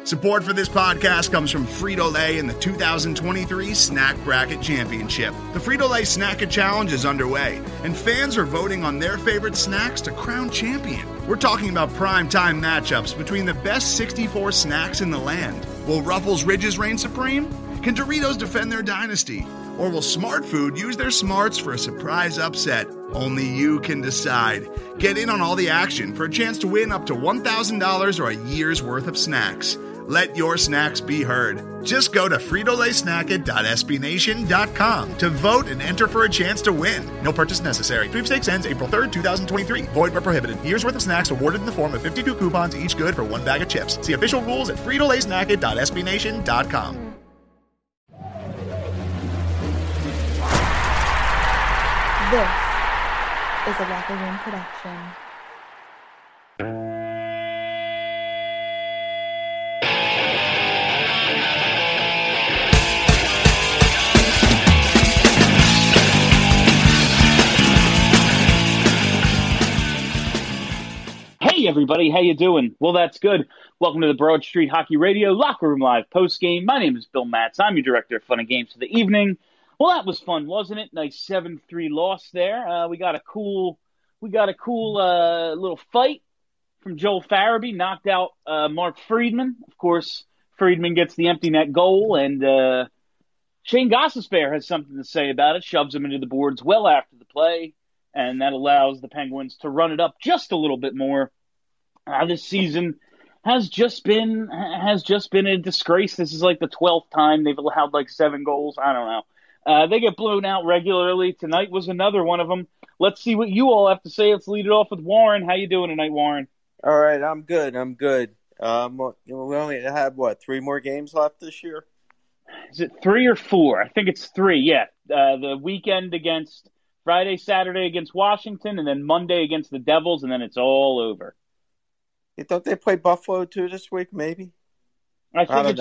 Support for this podcast comes from Frito-Lay and the 2023 Snack Bracket Championship. The Frito-Lay Snack-It Challenge is underway, and fans are voting on their favorite snacks to crown champion. We're talking about prime-time matchups between the best 64 snacks in the land. Will Ruffles Ridges reign supreme? Can Doritos defend their dynasty? Or will Smart Food use their smarts for a surprise upset? Only you can decide. Get in on all the action for a chance to win up to $1,000 or a year's worth of snacks. Let your snacks be heard. Just go to fritolaysnacket.sbnation.com to vote and enter for a chance to win. No purchase necessary. Sweepstakes ends April 3rd, 2023. Void where prohibited. Year's worth of snacks awarded in the form of 52 coupons, each good for one bag of chips. See official rules at fritolaysnacket.sbnation.com. This is a Locker Room production. Hey everybody, how you doing? Well, that's good. Welcome to the Broad Street Hockey Radio Locker Room Live postgame. My name is Bill Matz. I'm your director of fun and games for the evening. Well, that was fun, wasn't it? Nice 7-3 loss there. We got a cool little fight from Joel Farabee. Knocked out Mark Friedman. Of course, Friedman gets the empty net goal, and Shane Gostisbehere has something to say about it. Shoves him into the boards well after the play, and that allows the Penguins to run it up just a little bit more. This season has just been a disgrace. This is like the 12th time they've allowed like 7 goals. I don't know. They get blown out regularly. Tonight was another one of them. Let's see what you all have to say. Let's lead it off with Warren. How you doing tonight, Warren? All right, I'm good. We only have, 3 more games left this year? Is it 3 or 4? I think it's 3, yeah. The weekend against Friday, Saturday against Washington, and then Monday against the Devils, and then it's all over. You thought they played Buffalo too this week, maybe? I think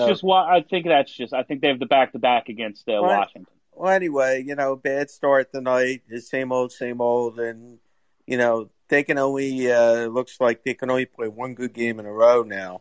they have the back-to-back against Washington. Well, anyway, bad start tonight. The same old, and, they can only, looks like they can only play one good game in a row now.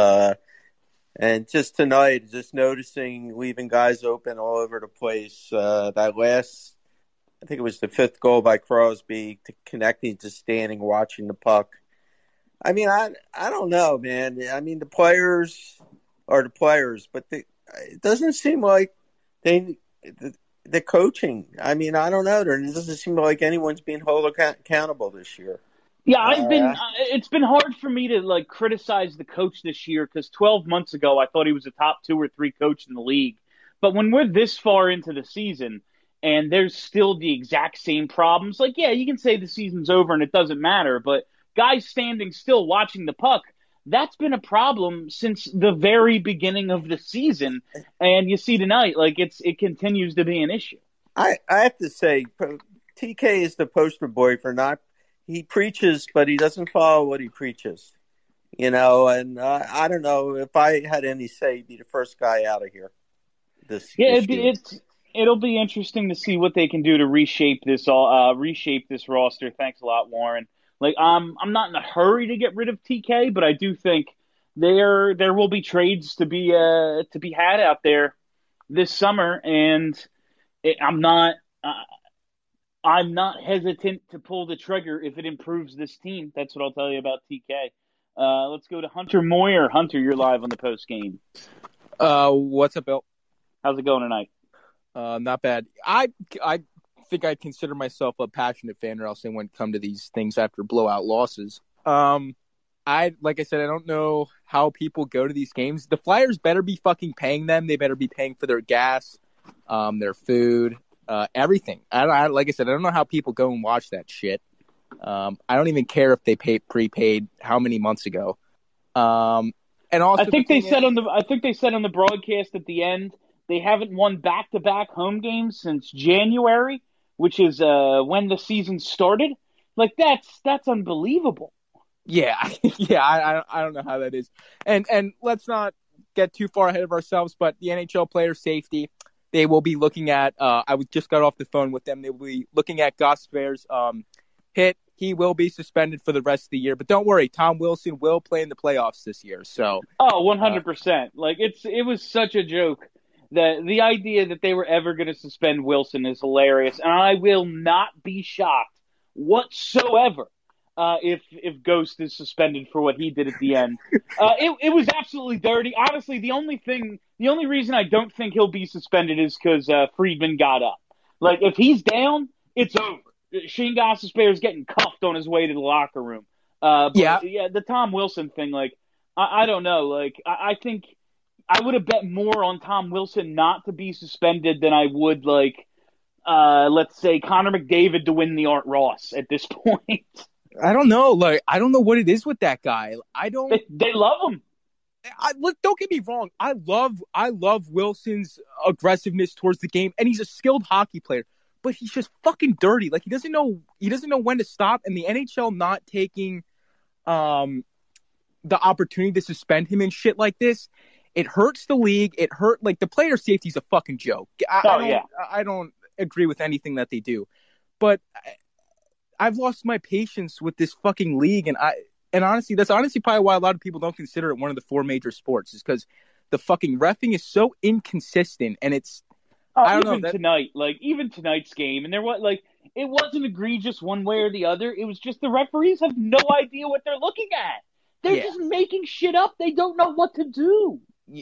And just tonight, just noticing, leaving guys open all over the place. That last, I think it was the 5th goal by Crosby, connecting to standing, watching the puck. I mean, I don't know, man. I mean, the players are the players, but it doesn't seem like the coaching. I mean, I don't know. It doesn't seem like anyone's being held accountable this year. Yeah, it's been hard for me to criticize the coach this year because 12 months ago I thought he was a top 2 or 3 coach in the league. But when we're this far into the season and there's still the exact same problems, you can say the season's over and it doesn't matter, but guys standing still watching the puck, that's been a problem since the very beginning of the season. And you see tonight, it continues to be an issue. I have to say, TK is the poster boy for he preaches, but he doesn't follow what he preaches. And I don't know if I had any say, he'd be the first guy out of here. It'll be interesting to see what they can do to reshape this roster. Thanks a lot, Warren. I'm not in a hurry to get rid of TK, but I do think there will be trades to be had out there this summer, and I'm not hesitant to pull the trigger if it improves this team. That's what I'll tell you about TK. Let's go to Hunter Moyer. Hunter, you're live on the post game. What's up, Bill? How's it going tonight? Not bad. I think I consider myself a passionate fan, or else I wouldn't come to these things after blowout losses. Like I said, I don't know how people go to these games. The Flyers better be fucking paying them. They better be paying for their gas, their food, everything. Like I said, I don't know how people go and watch that shit. I don't even care if they prepaid how many months ago. And also, I think they said on the broadcast at the end they haven't won back-to-back home games since January, which is when the season started. That's unbelievable. Yeah, I don't know how that is. And let's not get too far ahead of ourselves, but the NHL player safety, they will be looking at, just got off the phone with them, they will be looking at Gostisbehere's hit he will be suspended for the rest of the year. But don't worry, Tom Wilson will play in the playoffs this year. So, 100%. It was such a joke that the idea that they were ever going to suspend Wilson is hilarious, and I will not be shocked whatsoever if Ghost is suspended for what he did at the end. It was absolutely dirty. Honestly, the only reason I don't think he'll be suspended is because Friedman got up. Like, if he's down, it's over. Shane Gostisbehere is getting cuffed on his way to the locker room. The Tom Wilson thing, I don't know. I think I would have bet more on Tom Wilson not to be suspended than I would, let's say, Connor McDavid to win the Art Ross at this point. I don't know. I don't know what it is with that guy. They love him. Don't get me wrong. I love Wilson's aggressiveness towards the game, and he's a skilled hockey player. But he's just fucking dirty. He doesn't know when to stop. And the NHL not taking the opportunity to suspend him and shit like this, it hurts the league. It hurt the player safety's a fucking joke. I don't agree with anything that they do, but I've lost my patience with this fucking league, and honestly, that's probably why a lot of people don't consider it one of the 4 major sports, is because the fucking reffing is so inconsistent, and it's even tonight's game, and it wasn't egregious one way or the other. It was just the referees have no idea what they're looking at. They're just making shit up. They don't know what to do.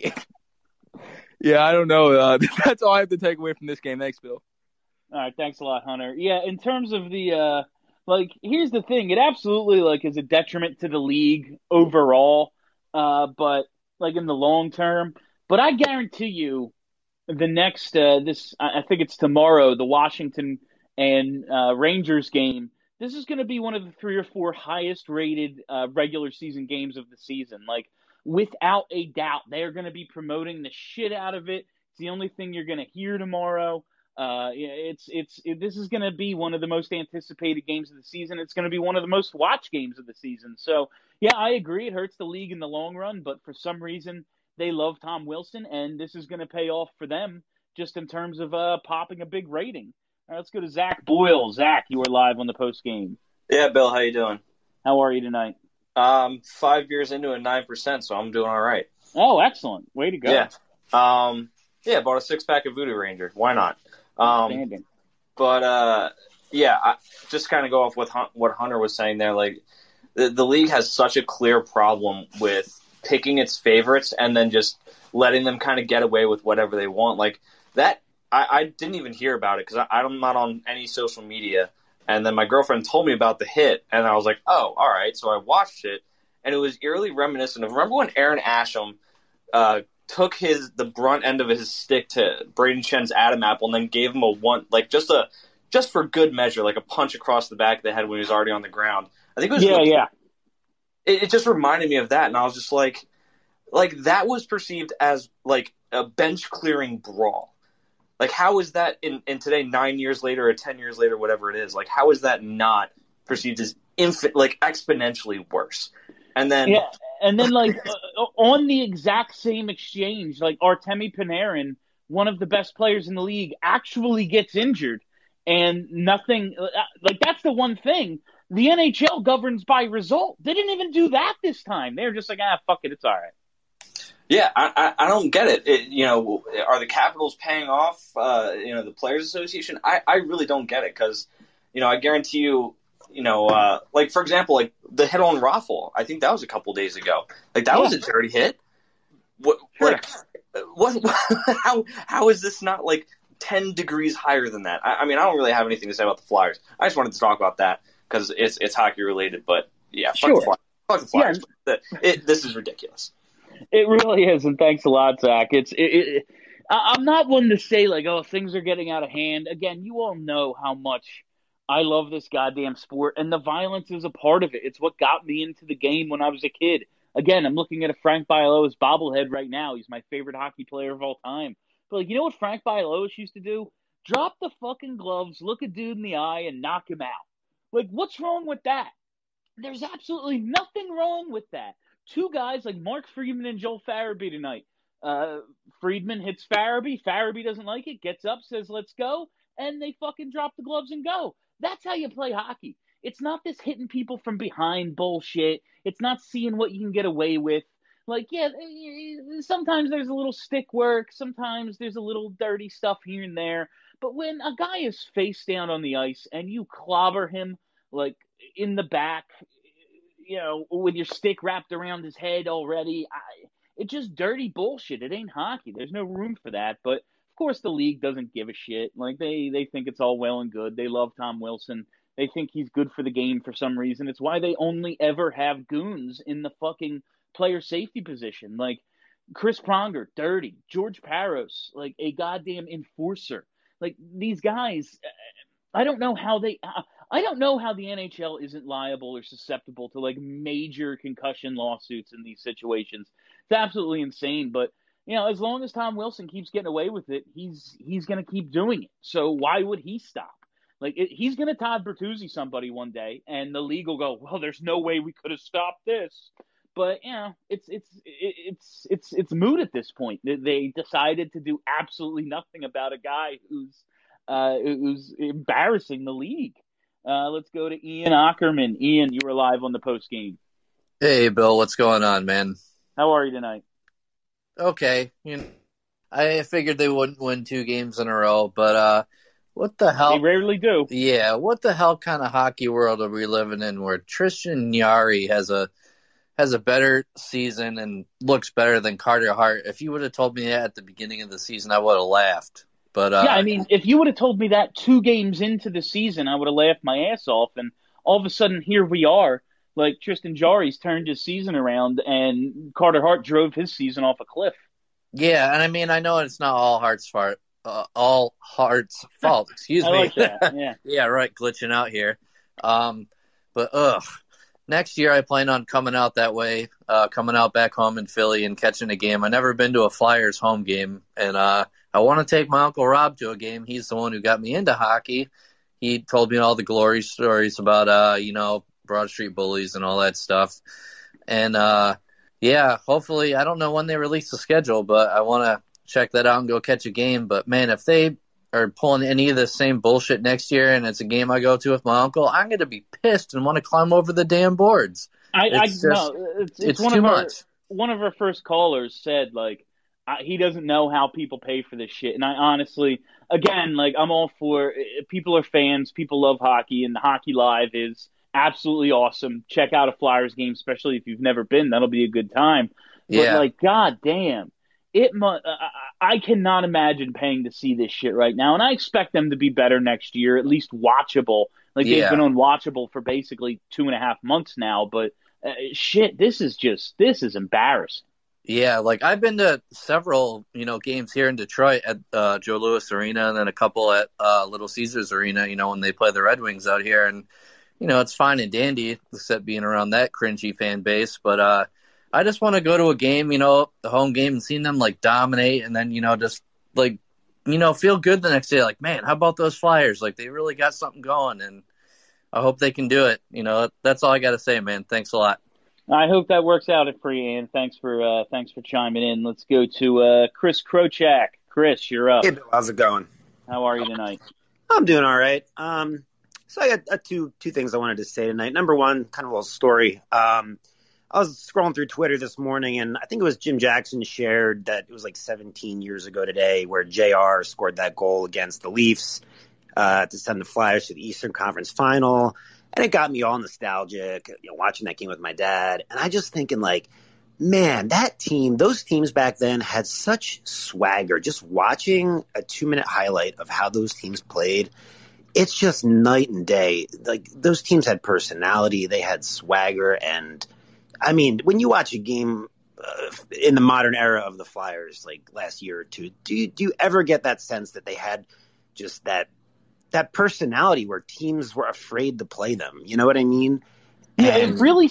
Yeah, I don't know. That's all I have to take away from this game. Thanks, Bill. All right, thanks a lot, Hunter. Yeah, in terms of the here's the thing. It absolutely is a detriment to the league overall, but in the long term. But I guarantee you, the next I think it's tomorrow, the Washington and Rangers game. This is going to be one of the 3 or 4 highest rated regular season games of the season. Without a doubt, they're going to be promoting the shit out of it. It's the only thing you're going to hear tomorrow. This is going to be one of the most anticipated games of the season. It's going to be one of the most watched games of the season. So, yeah, I agree. It hurts the league in the long run, but for some reason they love Tom Wilson, and this is going to pay off for them just in terms of popping a big rating. All right, let's go to Zach Boyle. Zach, you were live on the post game. Yeah, Bill, how you doing? How are you tonight? 5 years into it, 9%, so I'm doing all right. Oh, excellent. Way to go. Yeah. Bought a 6-pack of Voodoo Ranger. Why not? Outstanding. I just kind of go off with what Hunter was saying there. The league has such a clear problem with picking its favorites and then just letting them kind of get away with whatever they want. I didn't even hear about it because I'm not on any social media. And then my girlfriend told me about the hit, and I was like, oh, all right. So I watched it, and it was eerily reminiscent of, remember when Aaron Asham took the brunt end of his stick to Braden Shen's Adam Apple and then gave him just for good measure, a punch across the back of the head when he was already on the ground. I think it was It just reminded me of that, and I was just like that was perceived as a bench clearing brawl. How is that in today, 9 years later or 10 years later, whatever it is? How is that not perceived as exponentially worse? And then on the exact same exchange, Artemi Panarin, one of the best players in the league, actually gets injured, and nothing. That's the one thing. The NHL governs by result. They didn't even do that this time. They're just fuck it, it's all right. Yeah, I don't get it. Are the Capitals paying off, the Players Association? I really don't get it because, I guarantee you, for example, the hit on Raffle, I think that was a couple days ago. That was a dirty hit. How is this not 10 degrees higher than that? I don't really have anything to say about the Flyers. I just wanted to talk about that because it's hockey related. But yeah, fuck the Flyers. Yeah. This is ridiculous. It really is, and thanks a lot, Zach. I'm not one to say things are getting out of hand. Again, you all know how much I love this goddamn sport, and the violence is a part of it. It's what got me into the game when I was a kid. Again, I'm looking at a Frank Bialowas bobblehead right now. He's my favorite hockey player of all time. But you know what Frank Bialowas used to do? Drop the fucking gloves, look a dude in the eye, and knock him out. What's wrong with that? There's absolutely nothing wrong with that. 2 guys like Mark Friedman and Joel Farabee tonight. Friedman hits Farabee. Farabee doesn't like it, gets up, says, let's go, and they fucking drop the gloves and go. That's how you play hockey. It's not this hitting people from behind bullshit. It's not seeing what you can get away with. Like, yeah, sometimes there's a little stick work. Sometimes there's a little dirty stuff here and there. But when a guy is face down on the ice and you clobber him, like, in the back, with your stick wrapped around his head already, it's just dirty bullshit. It ain't hockey. There's no room for that. But, of course, the league doesn't give a shit. Like, they think it's all well and good. They love Tom Wilson. They think he's good for the game for some reason. It's why they only ever have goons in the fucking player safety position. Like, Chris Pronger, dirty. George Parros, like a goddamn enforcer. Like, these guys, I don't know how the NHL isn't liable or susceptible to like major concussion lawsuits in these situations. It's absolutely insane. But as long as Tom Wilson keeps getting away with it, he's going to keep doing it. So why would he stop? Like, he's going to Todd Bertuzzi somebody one day, and the league will go, well, there's no way we could have stopped this. But it's moot at this point. They decided to do absolutely nothing about a guy who's embarrassing the league. Let's go to Ian Ackerman. Ian, you were live on the post game. Hey, Bill, what's going on, man? How are you tonight? Okay, I figured they wouldn't win 2 games in a row, but what the hell? They rarely do. Yeah, what the hell kind of hockey world are we living in where Tristan Jarry has a better season and looks better than Carter Hart? If you would have told me that at the beginning of the season, I would have laughed. But yeah, I mean, if you would have told me that 2 games into the season, I would have laughed my ass off. And all of a sudden, here we are. Like, Tristan Jarry's turned his season around, and Carter Hart drove his season off a cliff. Yeah, and I mean, I know it's not all Hart's fault. Excuse me. I like that. Yeah. Yeah, right. Glitching out here. But next year I plan on coming out that way, coming out back home in Philly and catching a game. I've never been to a Flyers home game, and I want to take my Uncle Rob to a game. He's the one who got me into hockey. He told me all the glory stories about, Broad Street Bullies and all that stuff. And, yeah, hopefully, I don't know when they release the schedule, but I want to check that out and go catch a game. But, man, if they are pulling any of the same bullshit next year and it's a game I go to with my uncle, I'm going to be pissed and want to climb over the damn boards. It's too much. One of our first callers said, like, he doesn't know how people pay for this shit. And I honestly, again, like, I'm all for people are fans. People love hockey, and Hockey Live is absolutely awesome. Check out a Flyers game, especially if you've never been. That'll be a good time. But, like, god damn, I cannot imagine paying to see this shit right now. And I expect them to be better next year, at least watchable. Like, they've been unwatchable for basically 2.5 months now. But, shit, this is embarrassing. Yeah, like I've been to several, games here in Detroit at Joe Louis Arena and then a couple at Little Caesars Arena, when they play the Red Wings out here. And, it's fine and dandy, except being around that cringy fan base. But I just want to go to a game, the home game, and seeing them, like, dominate and then, just, like, feel good the next day. Like, man, how about those Flyers? Like, they really got something going, and I hope they can do it. That's all I got to say, man. Thanks a lot. I hope that works out for you, Ian. Thanks for chiming in. Let's go to Chris Krochak. Chris, you're up. Hey, Bill, how's it going? How are you tonight? I'm doing all right. So I got two things I wanted to say tonight. Number one, kind of a little story. I was scrolling through Twitter this morning, and I think it was Jim Jackson shared that it was like 17 years ago today where JR scored that goal against the Leafs to send the Flyers to the Eastern Conference Final. And it got me all nostalgic, watching that game with my dad. And I just thinking, like, man, those teams back then had such swagger. Just watching a 2-minute highlight of how those teams played, it's just night and day. Like, those teams had personality. They had swagger. And, I mean, when you watch a game in the modern era of the Flyers, like last year or two, do you ever get that sense that they had just that personality where teams were afraid to play them? You know what I mean? Yeah, it really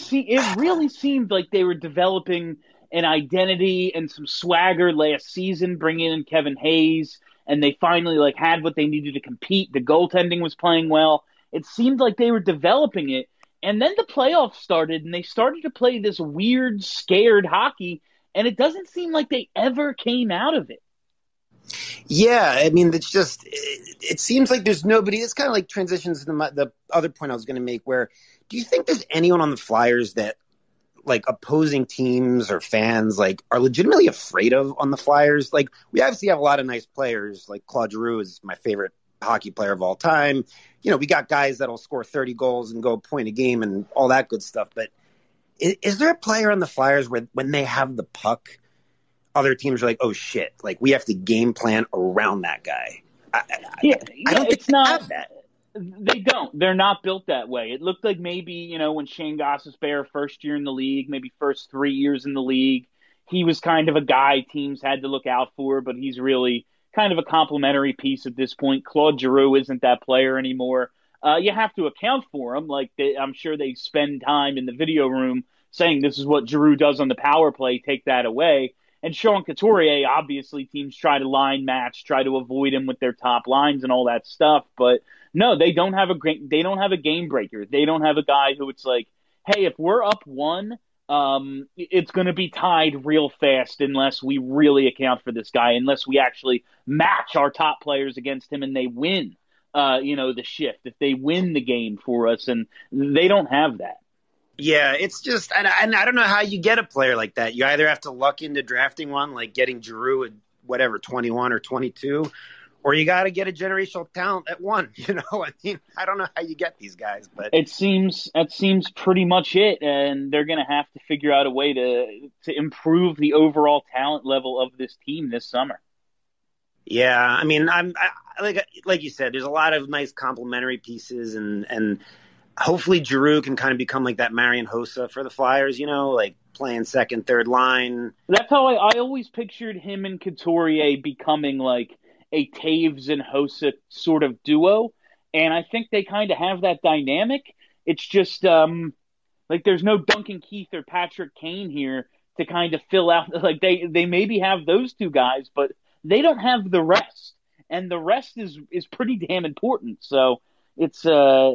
seemed like they were developing an identity and some swagger last season, bringing in Kevin Hayes, and they finally like had what they needed to compete. The goaltending was playing well. It seemed like they were developing it, and then the playoffs started, and they started to play this weird, scared hockey, and it doesn't seem like they ever came out of it. Yeah, I mean, it's just it seems like there's nobody. It's kind of like transitions to the other point I was going to make. Where do you think there's anyone on the Flyers that like opposing teams or fans like are legitimately afraid of on the Flyers? Like we obviously have a lot of nice players. Like Claude Giroux is my favorite hockey player of all time. You know, we got guys that'll score 30 goals and go a point a game and all that good stuff. But is there a player on the Flyers where when they have the puck, other teams are like, oh shit, like we have to game plan around that guy? I don't think it's not have that. They don't. They're not built that way. It looked like maybe, when Shane Gostisbehere first year in the league, maybe first 3 years in the league, he was kind of a guy teams had to look out for, but he's really kind of a complimentary piece at this point. Claude Giroux isn't that player anymore. You have to account for him. Like I'm sure they spend time in the video room saying this is what Giroux does on the power play, take that away. And Sean Couturier, obviously teams try to line match, try to avoid him with their top lines and all that stuff. But no, they don't have a game breaker. They don't have a guy who it's like, hey, if we're up one, it's going to be tied real fast unless we really account for this guy, unless we actually match our top players against him and they win, the shift, if they win the game for us. And they don't have that. Yeah, it's just, and I don't know how you get a player like that. You either have to luck into drafting one, like getting Giroux at whatever, 21 or 22, or you got to get a generational talent at one. I mean, I don't know how you get these guys, but that seems pretty much it. And they're going to have to figure out a way to improve the overall talent level of this team this summer. Yeah, I mean, I like you said, there's a lot of nice complementary pieces, and hopefully Giroux can kind of become like that Marian Hossa for the Flyers, like playing second, third line. That's how I always pictured him and Couturier becoming like a Taves and Hossa sort of duo. And I think they kind of have that dynamic. It's just like there's no Duncan Keith or Patrick Kane here to kind of fill out. Like they maybe have those two guys, but they don't have the rest. And the rest is pretty damn important. So it's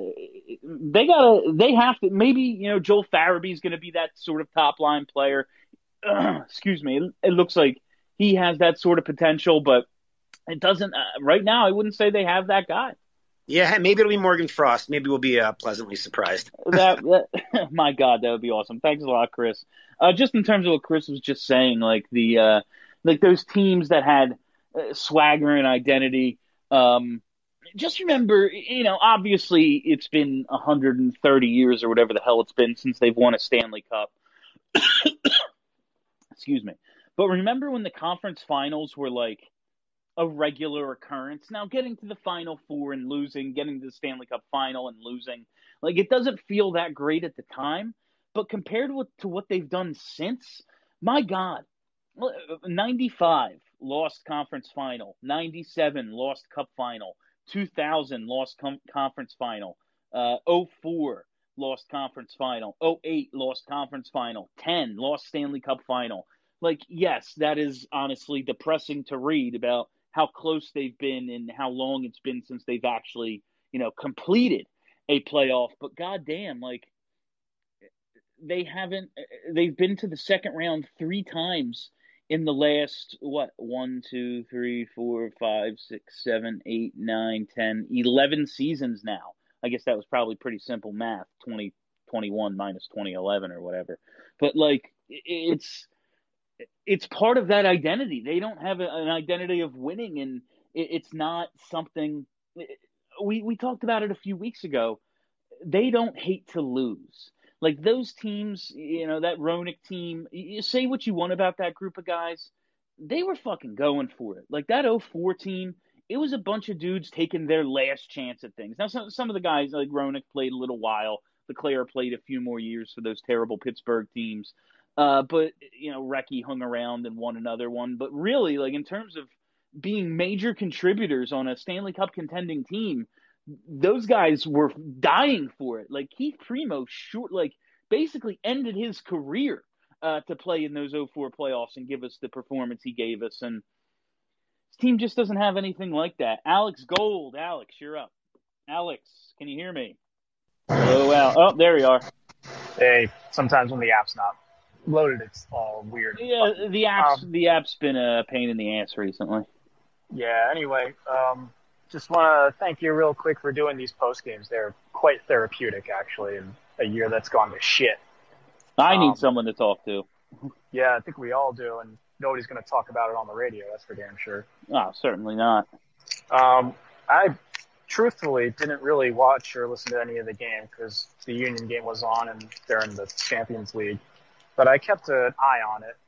they have to, maybe Joel Farabee's going to be that sort of top line player. Excuse me. It looks like he has that sort of potential, but it doesn't right now. I wouldn't say they have that guy. Yeah, maybe it'll be Morgan Frost. Maybe we'll be pleasantly surprised. that my God, that would be awesome. Thanks a lot, Chris. Just in terms of what Chris was just saying, like the like those teams that had swagger and identity. Just remember, obviously it's been 130 years or whatever the hell it's been since they've won a Stanley Cup. Excuse me. But remember when the conference finals were like a regular occurrence? Now getting to the Final Four and losing, getting to the Stanley Cup final and losing, like it doesn't feel that great at the time. But compared to what they've done since, my God, 95 lost conference final, 97 lost cup final, 2000 lost conference final, 04 lost conference final, 08 lost conference final, 10 lost Stanley Cup final. Like, yes, that is honestly depressing to read about how close they've been and how long it's been since they've actually, completed a playoff. But goddamn, like they've been to the second round 3 times in the last, 1, 2, 3, 4, 5, 6, 7, 8, 9, 10, 11 seasons now. I guess that was probably pretty simple math, 2021 minus 2011 or whatever. But, like, it's part of that identity. They don't have an identity of winning, and it's not something – we talked about it a few weeks ago. They don't hate to lose. Like those teams, that Roenick team, you say what you want about that group of guys, they were fucking going for it. Like that 04 team, it was a bunch of dudes taking their last chance at things. Now, some of the guys, like Roenick, played a little while. LeClaire played a few more years for those terrible Pittsburgh teams. But, Recchi hung around and won another one. But really, like in terms of being major contributors on a Stanley Cup contending team, those guys were dying for it. Like Keith Primo, basically ended his career to play in those 04 playoffs and give us the performance he gave us. And this team just doesn't have anything like that. Alex Gold, Alex, you're up. Alex, can you hear me? Oh wow! Oh, there you are. Hey, sometimes when the app's not loaded, it's all weird. Yeah, the app's been a pain in the ass recently. Yeah, anyway, just want to thank you real quick for doing these post games. They're quite therapeutic, actually, in a year that's gone to shit. I need someone to talk to. Yeah, I think we all do, and nobody's going to talk about it on the radio. That's for damn sure. Oh, certainly not. I truthfully didn't really watch or listen to any of the game because the Union game was on and they're in the Champions League. But I kept an eye on it.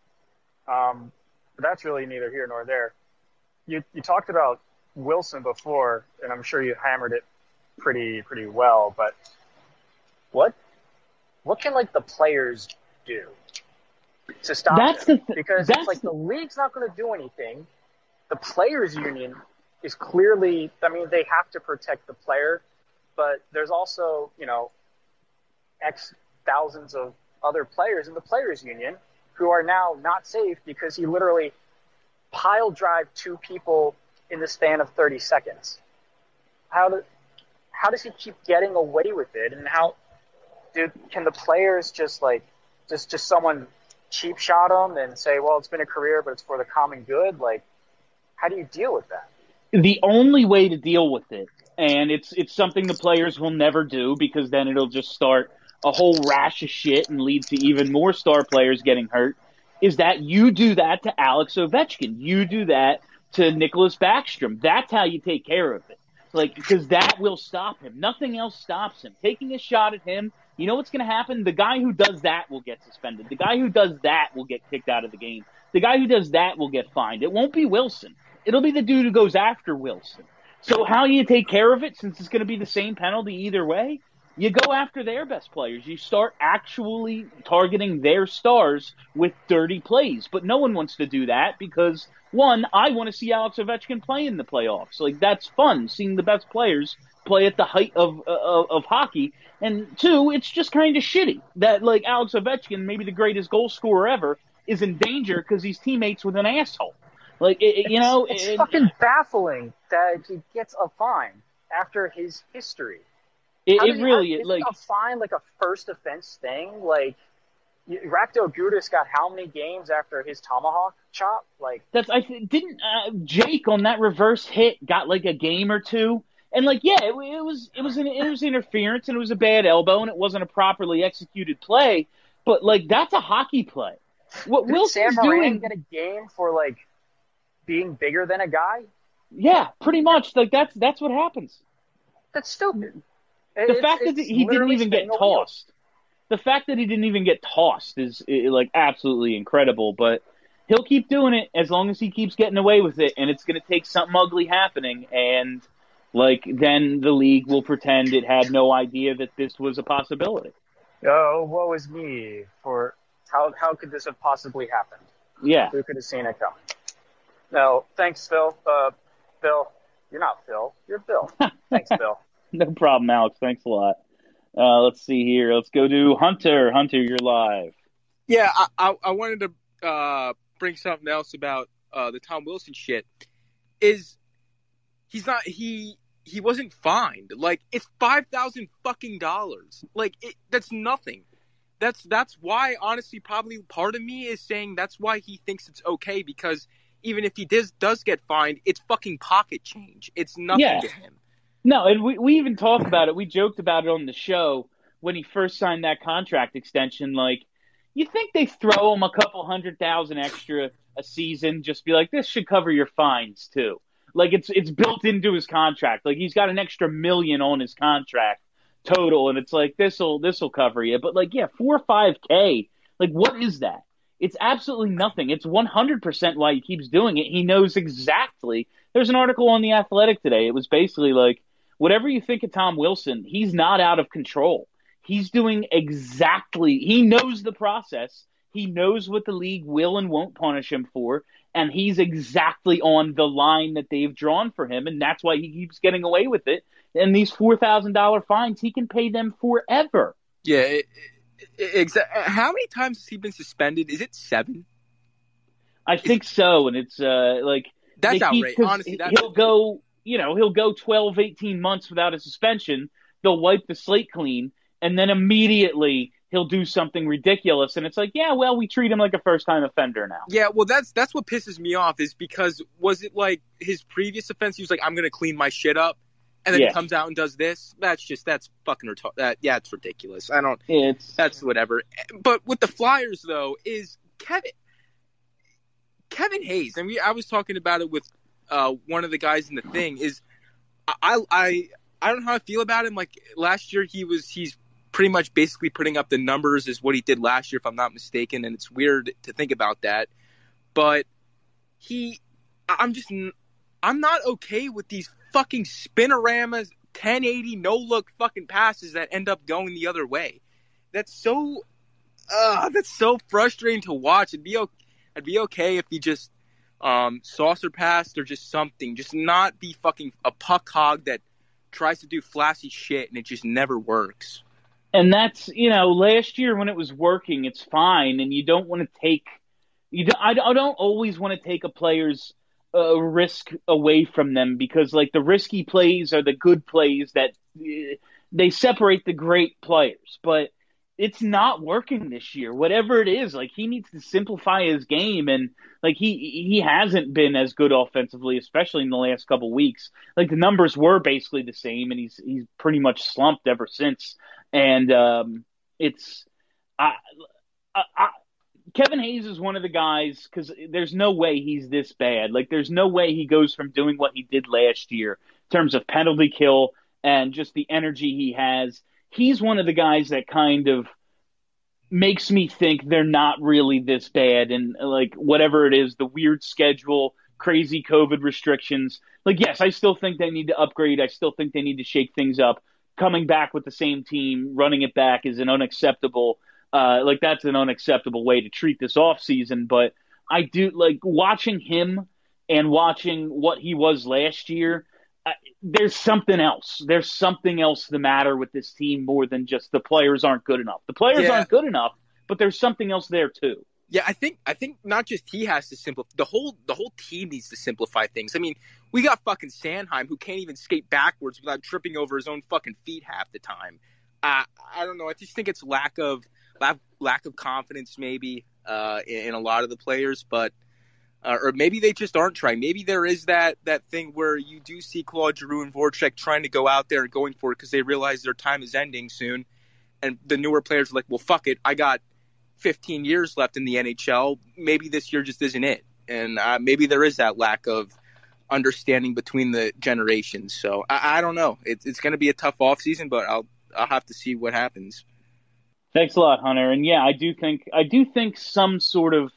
But that's really neither here nor there. You talked about Wilson before, and I'm sure you hammered it pretty well. But what can like the players do to stop him? Because it's like the league's not going to do anything. The players' union is clearly, I mean, they have to protect the player, but there's also, X thousands of other players in the players' union who are now not safe because he literally pile drive two people in the span of 30 seconds. How does he keep getting away with it? And can the players just someone cheap shot him and say, well, it's been a career, but it's for the common good? Like, how do you deal with that? The only way to deal with it, and it's something the players will never do because then it'll just start a whole rash of shit and lead to even more star players getting hurt, is that you do that to Alex Ovechkin. You do that to Nicholas Backstrom. That's how you take care of it. Like, because that will stop him. Nothing else stops him. Taking a shot at him, you know what's going to happen? The guy who does that will get suspended. The guy who does that will get kicked out of the game. The guy who does that will get fined. It won't be Wilson. It'll be the dude who goes after Wilson. So how do you take care of it since it's going to be the same penalty either way? You go after their best players. You start actually targeting their stars with dirty plays. But no one wants to do that because, one, I want to see Alex Ovechkin play in the playoffs. Like, that's fun, seeing the best players play at the height of hockey. And two, it's just kind of shitty that, like, Alex Ovechkin, maybe the greatest goal scorer ever, is in danger because he's teammates with an asshole. Like, it's fucking baffling that he gets a fine after his history. It really is. Like a fine, like a first offense thing. Like, Rakdo Gudas got how many games after his tomahawk chop? Like, didn't Jake on that reverse hit got like a game or two? And like, yeah, it was interference and it was a bad elbow and it wasn't a properly executed play. But like, that's a hockey play. What Wilson's doing? Get a game for like being bigger than a guy? Yeah, pretty much. Like that's what happens. That's stupid. The fact that he didn't even get tossed. The fact that he didn't even get tossed is like absolutely incredible. But he'll keep doing it as long as he keeps getting away with it, and it's going to take something ugly happening, and like then the league will pretend it had no idea that this was a possibility. Oh, woe is me! For how could this have possibly happened? Yeah, who could have seen it coming? No, thanks, Phil. Bill, you're not Phil. You're Bill. Thanks, Bill. No problem, Alex. Thanks a lot. Let's see here. Let's go to Hunter. Hunter, you're live. Yeah, I wanted to bring something else about the Tom Wilson shit. He wasn't fined. Like, it's $5,000 fucking dollars. Like, that's nothing. That's why, honestly, probably part of me is saying that's why he thinks it's okay, because even if he does get fined, it's fucking pocket change. It's nothing to him. No, and we even talked about it. We joked about it on the show when he first signed that contract extension. Like, you think they throw him a couple $100,000 extra a season, just be like, this should cover your fines too. Like, it's built into his contract. Like, he's got an extra $1 million on his contract total, and it's like, this'll cover you. But like, yeah, $4 or $5K. Like, what is that? It's absolutely nothing. It's 100% why he keeps doing it. He knows exactly. There's an article on The Athletic today. It was basically like, whatever you think of Tom Wilson, he's not out of control. He's doing exactly, he knows the process. He knows what the league will and won't punish him for, and he's exactly on the line that they've drawn for him, and that's why he keeps getting away with it. And these $4,000 fines, he can pay them forever. Yeah, how many times has he been suspended? Is it 7? I think so, and it's like... That's outrageous. Honestly, he'll go 12, 18 months without a suspension. They'll wipe the slate clean, and then immediately he'll do something ridiculous, and it's like, yeah, well, we treat him like a first-time offender now. Yeah, well, that's what pisses me off is because was it like his previous offense? He was like, I'm going to clean my shit up, and then he comes out and does this. That's fucking retarded. Yeah, it's ridiculous. That's whatever. But with the Flyers though, is Kevin Hayes, and I was talking about it with one of the guys in the thing. Is I don't know how I feel about him. Like last year, he's pretty much basically putting up the numbers as what he did last year, if I'm not mistaken. And it's weird to think about that, but I'm not okay with these fucking spinoramas, 1080 no look fucking passes that end up going the other way. That's so frustrating to watch. I'd be okay if he just saucer passed or just something. Just not be fucking a puck hog that tries to do flashy shit and it just never works. And that's, last year when it was working, it's fine, and you don't want to take I don't always want to take a player's risk away from them, because like the risky plays are the good plays that they separate the great players. But it's not working this year. Whatever it is, like he needs to simplify his game, and like he hasn't been as good offensively, especially in the last couple of weeks. Like the numbers were basically the same, and he's pretty much slumped ever since. And Kevin Hayes is one of the guys, because there's no way he's this bad. Like there's no way he goes from doing what he did last year in terms of penalty kill and just the energy he has. He's one of the guys that kind of makes me think they're not really this bad. And like whatever it is, the weird schedule, crazy COVID restrictions. Like, yes, I still think they need to upgrade. I still think they need to shake things up. Coming back with the same team, running it back is an unacceptable. That's an unacceptable way to treat this offseason. But I do like watching him and watching what he was last year. There's something else. There's something else the matter with this team more than just the players aren't good enough. The players aren't good enough, but there's something else there too. Yeah, I think not just he has to simplify. The whole team needs to simplify things. I mean, we got fucking Sanheim who can't even skate backwards without tripping over his own fucking feet half the time. I don't know. I just think it's lack of confidence maybe in a lot of the players, but or maybe they just aren't trying. Maybe there is that thing where you do see Claude Giroux and Voracek trying to go out there and going for it because they realize their time is ending soon, and the newer players are like, well, fuck it, I got 15 years left in the NHL. Maybe this year just isn't it. And maybe there is that lack of understanding between the generations. So I don't know. It's going to be a tough offseason, but I'll have to see what happens. Thanks a lot, Hunter. And yeah, I do think some sort of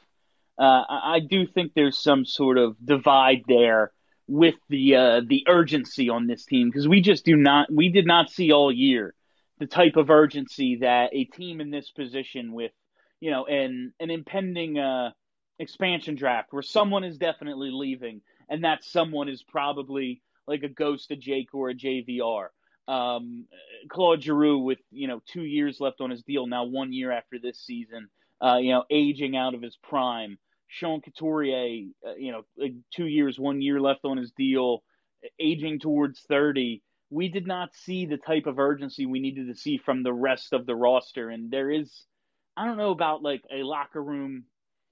I do think there's some sort of divide there with the urgency on this team, because we did not see all year the type of urgency that a team in this position with an impending expansion draft where someone is definitely leaving, and that someone is probably like a Ghost of Jake or a JVR. Claude Giroux with 2 years left on his deal now, 1 year after this season, aging out of his prime. Sean Couturier, 2 years, 1 year left on his deal, aging towards 30. We did not see the type of urgency we needed to see from the rest of the roster, and there is, I don't know about like a locker room,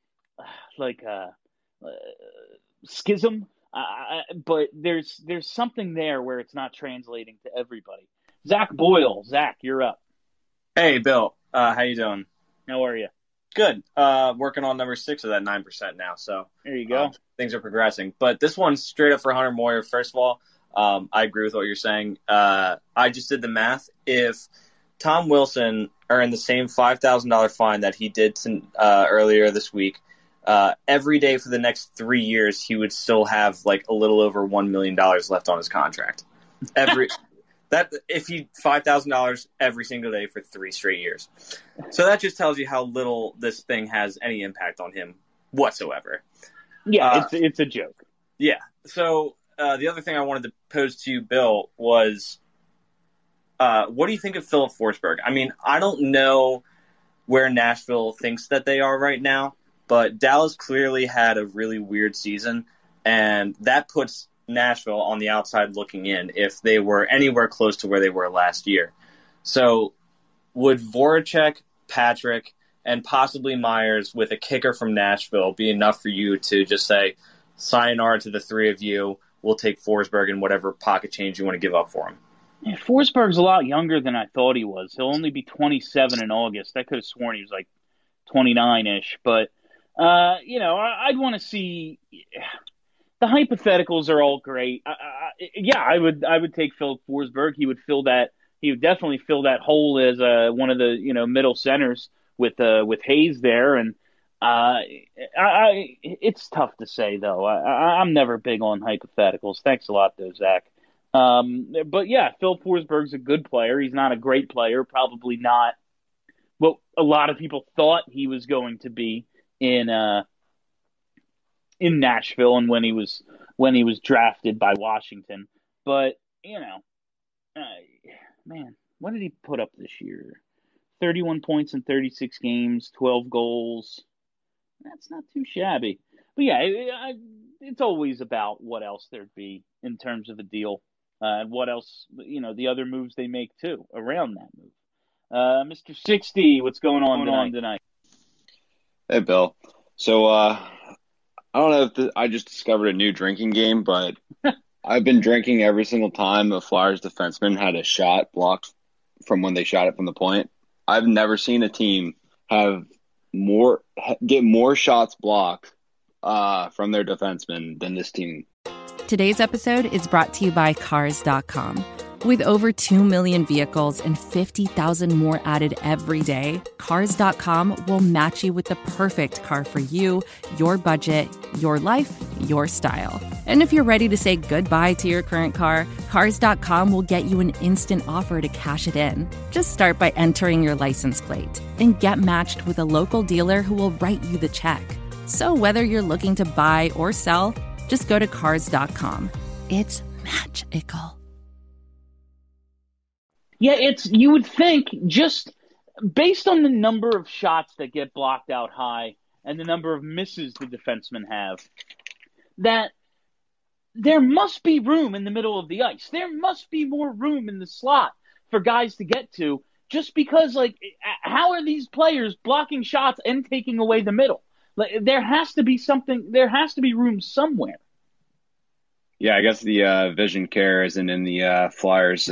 schism, but there's something there where it's not translating to everybody. Zach Boyle, Zach, you're up. Hey, Bill, how you doing? How are you? Good. Working on number 6 of that 9% now. So there you go. Things are progressing. But this one's straight up for Hunter Moyer. First of all, I agree with what you're saying. I just did the math. If Tom Wilson earned the same $5,000 fine that he did earlier this week, every day for the next 3 years, he would still have like a little over $1 million left on his contract. If he $5,000 every single day for 3 straight years. So that just tells you how little this thing has any impact on him whatsoever. Yeah, it's a joke. Yeah. So the other thing I wanted to pose to you, Bill, was what do you think of Philip Forsberg? I mean, I don't know where Nashville thinks that they are right now, but Dallas clearly had a really weird season, and that puts Nashville on the outside looking in if they were anywhere close to where they were last year. So would Voracek Patrick, and possibly Myers with a kicker from Nashville be enough for you to just say, sayonara to the three of you, we'll take Forsberg and whatever pocket change you want to give up for him? Yeah, Forsberg's a lot younger than I thought he was. He'll only be 27 in August. I could have sworn he was like 29-ish. But, I'd want to see – the hypotheticals are all great. I would take Phil Forsberg. He would definitely fill that hole as one of the middle centers with Hayes there. And it's tough to say though. I'm never big on hypotheticals. Thanks a lot though, Zach. But yeah, Phil Forsberg's a good player. He's not a great player. Probably not what a lot of people thought he was going to be in Nashville and when he was drafted by Washington. But man, what did he put up this year? 31 points in 36 games, 12 goals. That's not too shabby. But yeah, it's always about what else there'd be in terms of a deal. And what else, the other moves they make, too, around that move. Mr. 60, what's going on tonight? Hey, Bill. So, I don't know if I just discovered a new drinking game, but I've been drinking every single time a Flyers defenseman had a shot blocked from when they shot it from the point. I've never seen a team get more shots blocked from their defensemen than this team. Today's episode is brought to you by Cars.com. With over 2 million vehicles and 50,000 more added every day, Cars.com will match you with the perfect car for you, your budget, your life, your style. And if you're ready to say goodbye to your current car, Cars.com will get you an instant offer to cash it in. Just start by entering your license plate and get matched with a local dealer who will write you the check. So whether you're looking to buy or sell, just go to Cars.com. It's magical. Yeah, you would think just based on the number of shots that get blocked out high and the number of misses the defensemen have, that there must be room in the middle of the ice. There must be more room in the slot for guys to get to just because, how are these players blocking shots and taking away the middle? There has to be room somewhere. Yeah, I guess the vision care isn't in the Flyers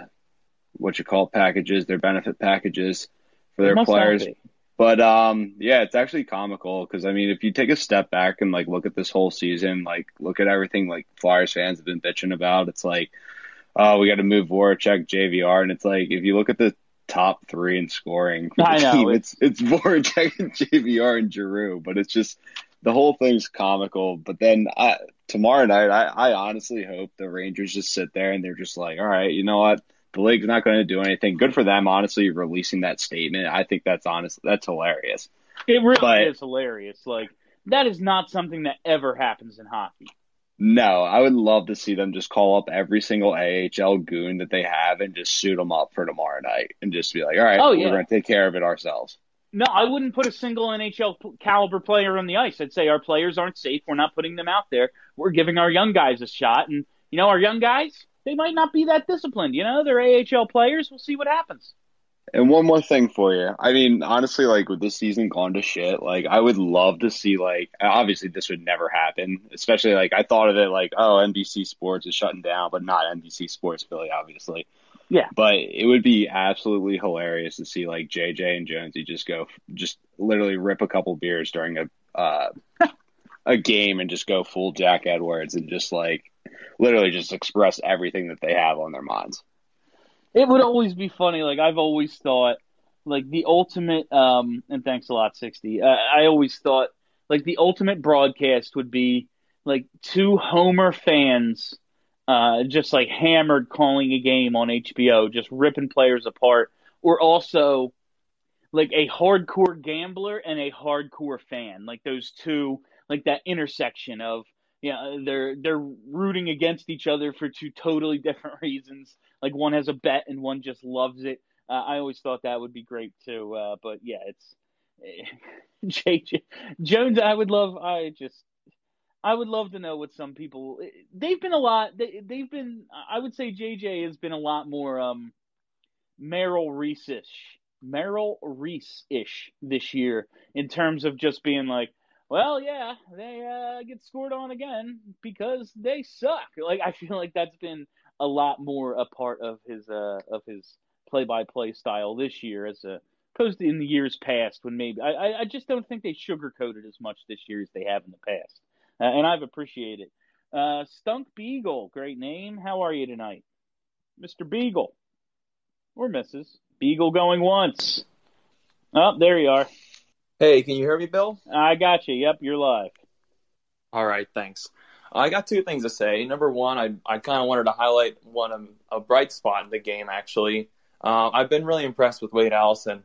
packages, their benefit packages for their players. But it's actually comical because if you take a step back and look at this whole season, look at everything Flyers fans have been bitching about. It's we got to move Voracek, JVR, and it's if you look at the top three in scoring for the team, it's Voracek and JVR and Giroux, but it's just the whole thing's comical. But then tomorrow night, I honestly hope the Rangers just sit there and they're just all right, you know what? The league's not going to do anything. Good for them, honestly, releasing that statement. I think that's hilarious. It really is hilarious. That is not something that ever happens in hockey. No, I would love to see them just call up every single AHL goon that they have and just suit them up for tomorrow night and just be all right, we're going to take care of it ourselves. No, I wouldn't put a single NHL caliber player on the ice. I'd say our players aren't safe. We're not putting them out there. We're giving our young guys a shot. And, our young guys, they might not be that disciplined. They're AHL players. We'll see what happens. And one more thing for you. Honestly, with this season gone to shit, I would love to see, obviously this would never happen, especially, I thought of it NBC Sports is shutting down, but not NBC Sports Philly, obviously. Yeah. But it would be absolutely hilarious to see, JJ and Jonesy just literally rip a couple beers during a game and just go full Jack Edwards and just, literally just express everything that they have on their minds. It would always be funny. I've always thought, the ultimate, and thanks a lot, 60. I always thought, the ultimate broadcast would be, two Homer fans, just hammered calling a game on HBO, just ripping players apart, or also, a hardcore gambler and a hardcore fan. Those two, that intersection of, they're rooting against each other for two totally different reasons. One has a bet and one just loves it. I always thought that would be great too. But yeah, it's JJ Jones. I would love to know what some people. They've been a lot. They've been. I would say JJ has been a lot more Merrill Reese-ish Merrill Reese-ish this year in terms of just being like, well, yeah, they get scored on again because they suck. Like, I feel like that's been a lot more a part of his play-by-play style this year as opposed to in the years past when maybe I just don't think they sugarcoated as much this year as they have in the past, and I've appreciated it. Stunk Beagle, great name. How are you tonight, Mr. Beagle or Mrs. Beagle? Going once. Oh, there you are. Hey, can you hear me, Bill? I got you. Yep, you're live. All right, thanks. I got two things to say. Number one, I kind of wanted to highlight a bright spot in the game, actually. I've been really impressed with Wade Allison.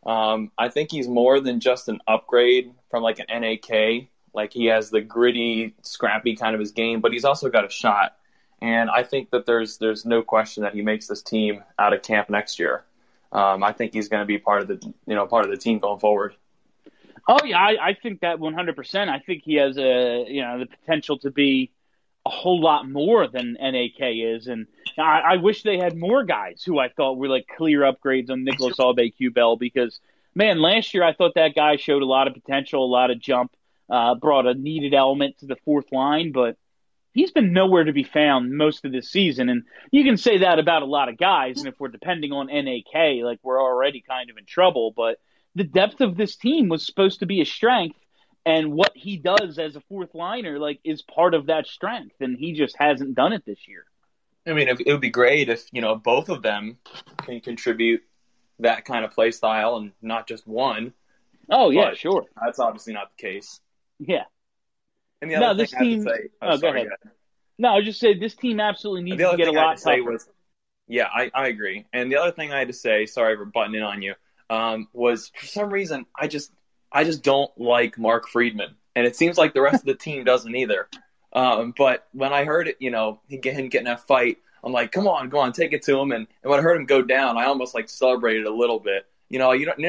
I think he's more than just an upgrade from like an NAK. Like, he has the gritty, scrappy kind of his game, but he's also got a shot. And I think that there's no question that he makes this team out of camp next year. I think he's going to be part of the team going forward. Oh yeah, I think that 100%. I think he has the potential to be a whole lot more than NAK is, and I wish they had more guys who I thought were like clear upgrades on Nicholas Aube-Kubel, because man, last year I thought that guy showed a lot of potential, a lot of jump, brought a needed element to the fourth line, but he's been nowhere to be found most of this season, and you can say that about a lot of guys, and if we're depending on NAK, like, we're already kind of in trouble, but the depth of this team was supposed to be a strength, and what he does as a fourth liner, like, is part of that strength, and he just hasn't done it this year. I mean, it would be great if, both of them can contribute that kind of play style and not just one. Oh, yeah, sure. That's obviously not the case. Yeah. And the other thing I have to say... go ahead. No, I was just saying this team absolutely needs to get a lot tougher. Yeah, I agree. And the other thing I had to say, sorry for butting in on you, was for some reason I just don't like Mark Friedman, and it seems like the rest of the team doesn't either. But when I heard it, him getting that fight, I'm like, come on, go on, take it to him. And when I heard him go down, I almost like celebrated a little bit. You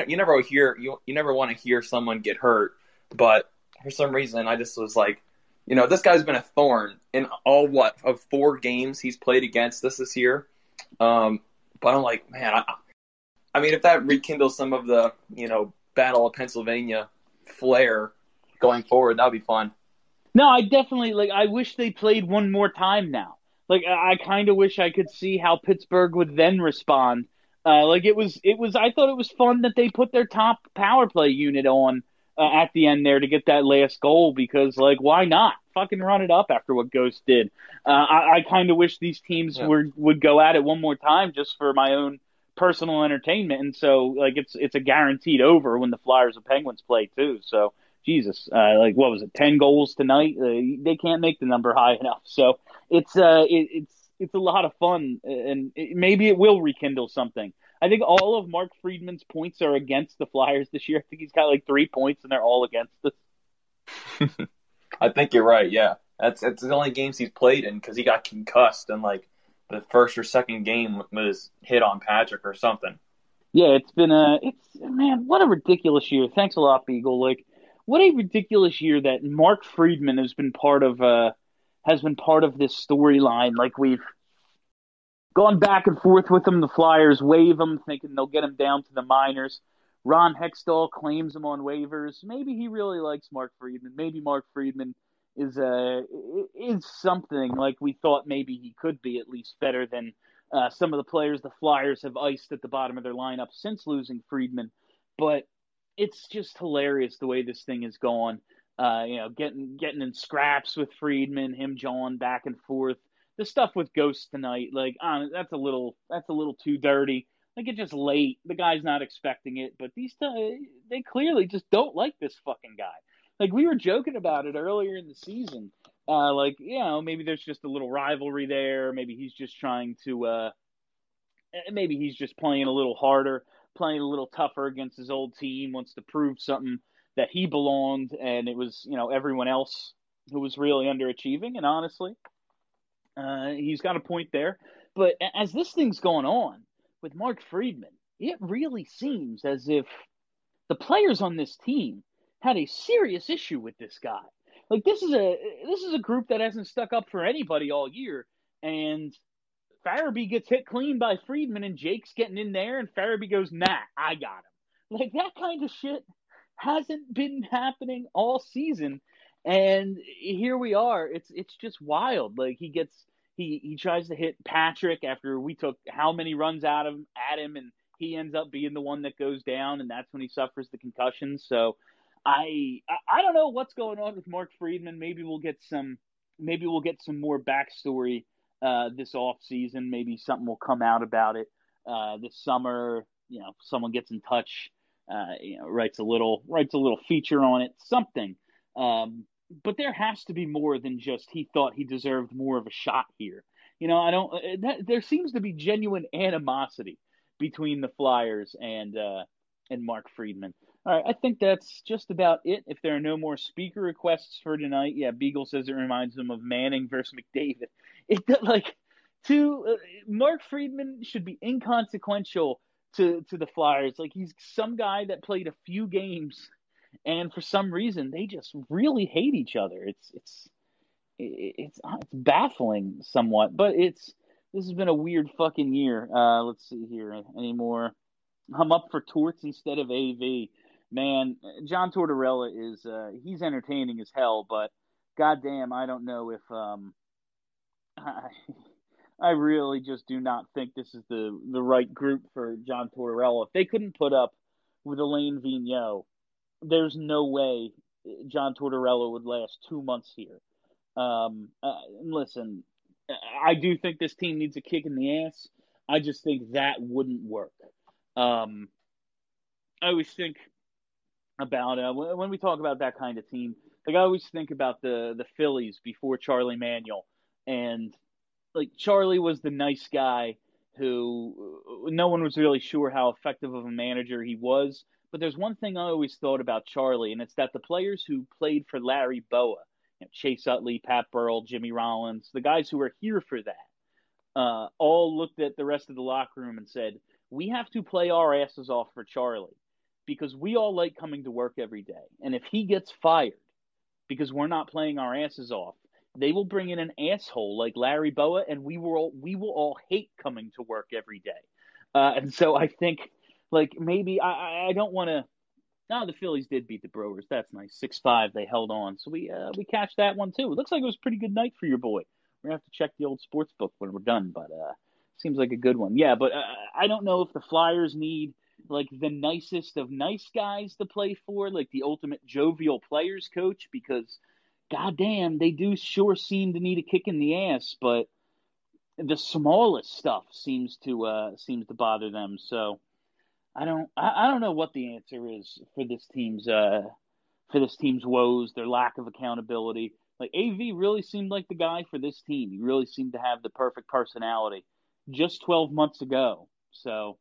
never want to hear someone get hurt, but for some reason I just was like, this guy's been a thorn in all of 4 games he's played against this year. But I'm like, man, I mean, if that rekindles some of the, Battle of Pennsylvania flair going forward, that'd be fun. No, I definitely, I wish they played one more time now. Like, I kind of wish I could see how Pittsburgh would then respond. I thought it was fun that they put their top power play unit on at the end there to get that last goal, because, why not? Fucking run it up after what Ghost did. I kind of wish these teams would go at it one more time just for my own personal entertainment, and so it's a guaranteed over when the Flyers and Penguins play too. So Jesus, what was it, 10 goals tonight? They can't make the number high enough. So it's a lot of fun, and maybe it will rekindle something. I think all of Mark Friedman's points are against the Flyers this year. I think he's got 3 points, and they're all against us. I think you're right. Yeah, that's the only games he's played in because he got concussed in the first or second game was hit on Patrick or something. Yeah, it's been man, what a ridiculous year. Thanks a lot, Beagle. What a ridiculous year that Mark Friedman has been part of this storyline. We've gone back and forth with him. The Flyers waive him, thinking they'll get him down to the minors. Ron Hextall claims him on waivers. Maybe he really likes Mark Friedman. Maybe Mark Friedman is something like we thought maybe he could be, at least better than some of the players the Flyers have iced at the bottom of their lineup since losing Friedman. But it's just hilarious the way this thing has gone. Getting in scraps with Friedman, him jawing back and forth. The stuff with Ghost tonight, that's a little too dirty. It's just late. The guy's not expecting it, but they clearly just don't like this fucking guy. We were joking about it earlier in the season. Maybe there's just a little rivalry there. Maybe he's just trying to, maybe he's just playing a little harder, playing a little tougher against his old team, wants to prove something that he belonged, and it was, everyone else who was really underachieving. And honestly, he's got a point there. But as this thing's going on with Mark Friedman, it really seems as if the players on this team had a serious issue with this guy. This is a group that hasn't stuck up for anybody all year, and Farabee gets hit clean by Friedman, and Jake's getting in there, and Farabee goes, nah, I got him. Like, that kind of shit hasn't been happening all season, and here we are. It's just wild. Like, he tries to hit Patrick after we took how many runs at him, and he ends up being the one that goes down, and that's when he suffers the concussion. So I don't know what's going on with Mark Friedman. Maybe we'll get some more backstory this off season. Maybe something will come out about it this summer. Someone gets in touch, writes a little feature on it, something. But there has to be more than just he thought he deserved more of a shot here. There seems to be genuine animosity between the Flyers and Mark Friedman. All right, I think that's just about it. If there are no more speaker requests for tonight, yeah, Beagle says it reminds him of Manning versus McDavid. Mark Friedman should be inconsequential to the Flyers. Like, he's some guy that played a few games, and for some reason they just really hate each other. It's baffling somewhat, but this has been a weird fucking year. Let's see here. Any more? I'm up for Torts instead of AV. Man, John Tortorella he's entertaining as hell, but goddamn, I don't know if I really just do not think this is the right group for John Tortorella. If they couldn't put up with Alain Vigneault, there's no way John Tortorella would last 2 months here. Listen, I do think this team needs a kick in the ass. I just think that wouldn't work. I always think about when we talk about that kind of team, like, I always think about the Phillies before Charlie Manuel, and like, Charlie was the nice guy who no one was really sure how effective of a manager he was. But there's one thing I always thought about Charlie, and it's that the players who played for Larry Boa, Chase Utley, Pat Burrell, Jimmy Rollins, the guys who were here for that, all looked at the rest of the locker room and said, we have to play our asses off for Charlie because we all like coming to work every day. And if he gets fired because we're not playing our asses off, they will bring in an asshole like Larry Boa, and we will all hate coming to work every day. And so I think, like, maybe I don't want to. No, the Phillies did beat the Brewers. That's nice. 6-5. They held on. So we cashed that one too. It looks like it was a pretty good night for your boy. We're going to have to check the old sports book when we're done, but seems like a good one. Yeah, but I don't know if the Flyers need, like, the nicest of nice guys to play for, like the ultimate jovial players coach, because goddamn, they do sure seem to need a kick in the ass, but the smallest stuff seems to bother them. So I don't know what the answer is for this team's woes, their lack of accountability. Like, AV really seemed like the guy for this team. He really seemed to have the perfect personality just 12 months ago. So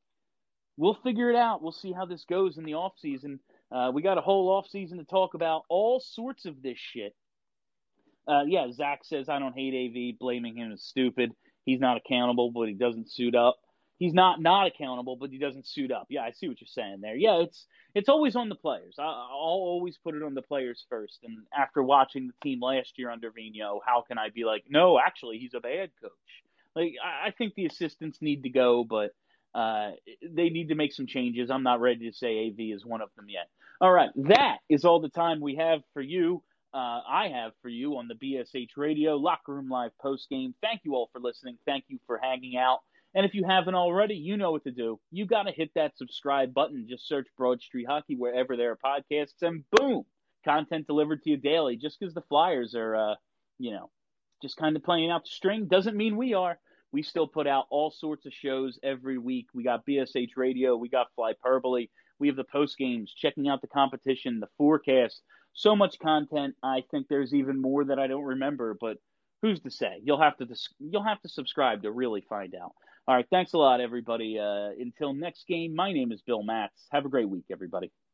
we'll figure it out. We'll see how this goes in the offseason. We got a whole offseason to talk about all sorts of this shit. Yeah, Zach says, I don't hate AV, blaming him is stupid. He's not accountable, but he doesn't suit up. He's not accountable, but he doesn't suit up. Yeah, I see what you're saying there. Yeah, it's always on the players. I'll always put it on the players first. And after watching the team last year under Vigneault, how can I be like, no, actually, he's a bad coach? Like, I think the assistants need to go, but they need to make some changes. I'm not ready to say AV is one of them yet. All right, that is all the time we have for you. I have for you on the BSH Radio Locker Room Live postgame. Thank you all for listening. Thank you for hanging out. And if you haven't already, you know what to do. You got to hit that subscribe button. Just search Broad Street Hockey wherever there are podcasts, and boom, content delivered to you daily. Just because the Flyers are, just kind of playing out the string doesn't mean we are. We still put out all sorts of shows every week. We got BSH Radio. We got Flyperbole. We have the post games, checking out the competition, the forecast. So much content. I think there's even more that I don't remember, but who's to say? You'll have to subscribe to really find out. All right, thanks a lot, everybody. Until next game, my name is Bill Matz. Have a great week, everybody.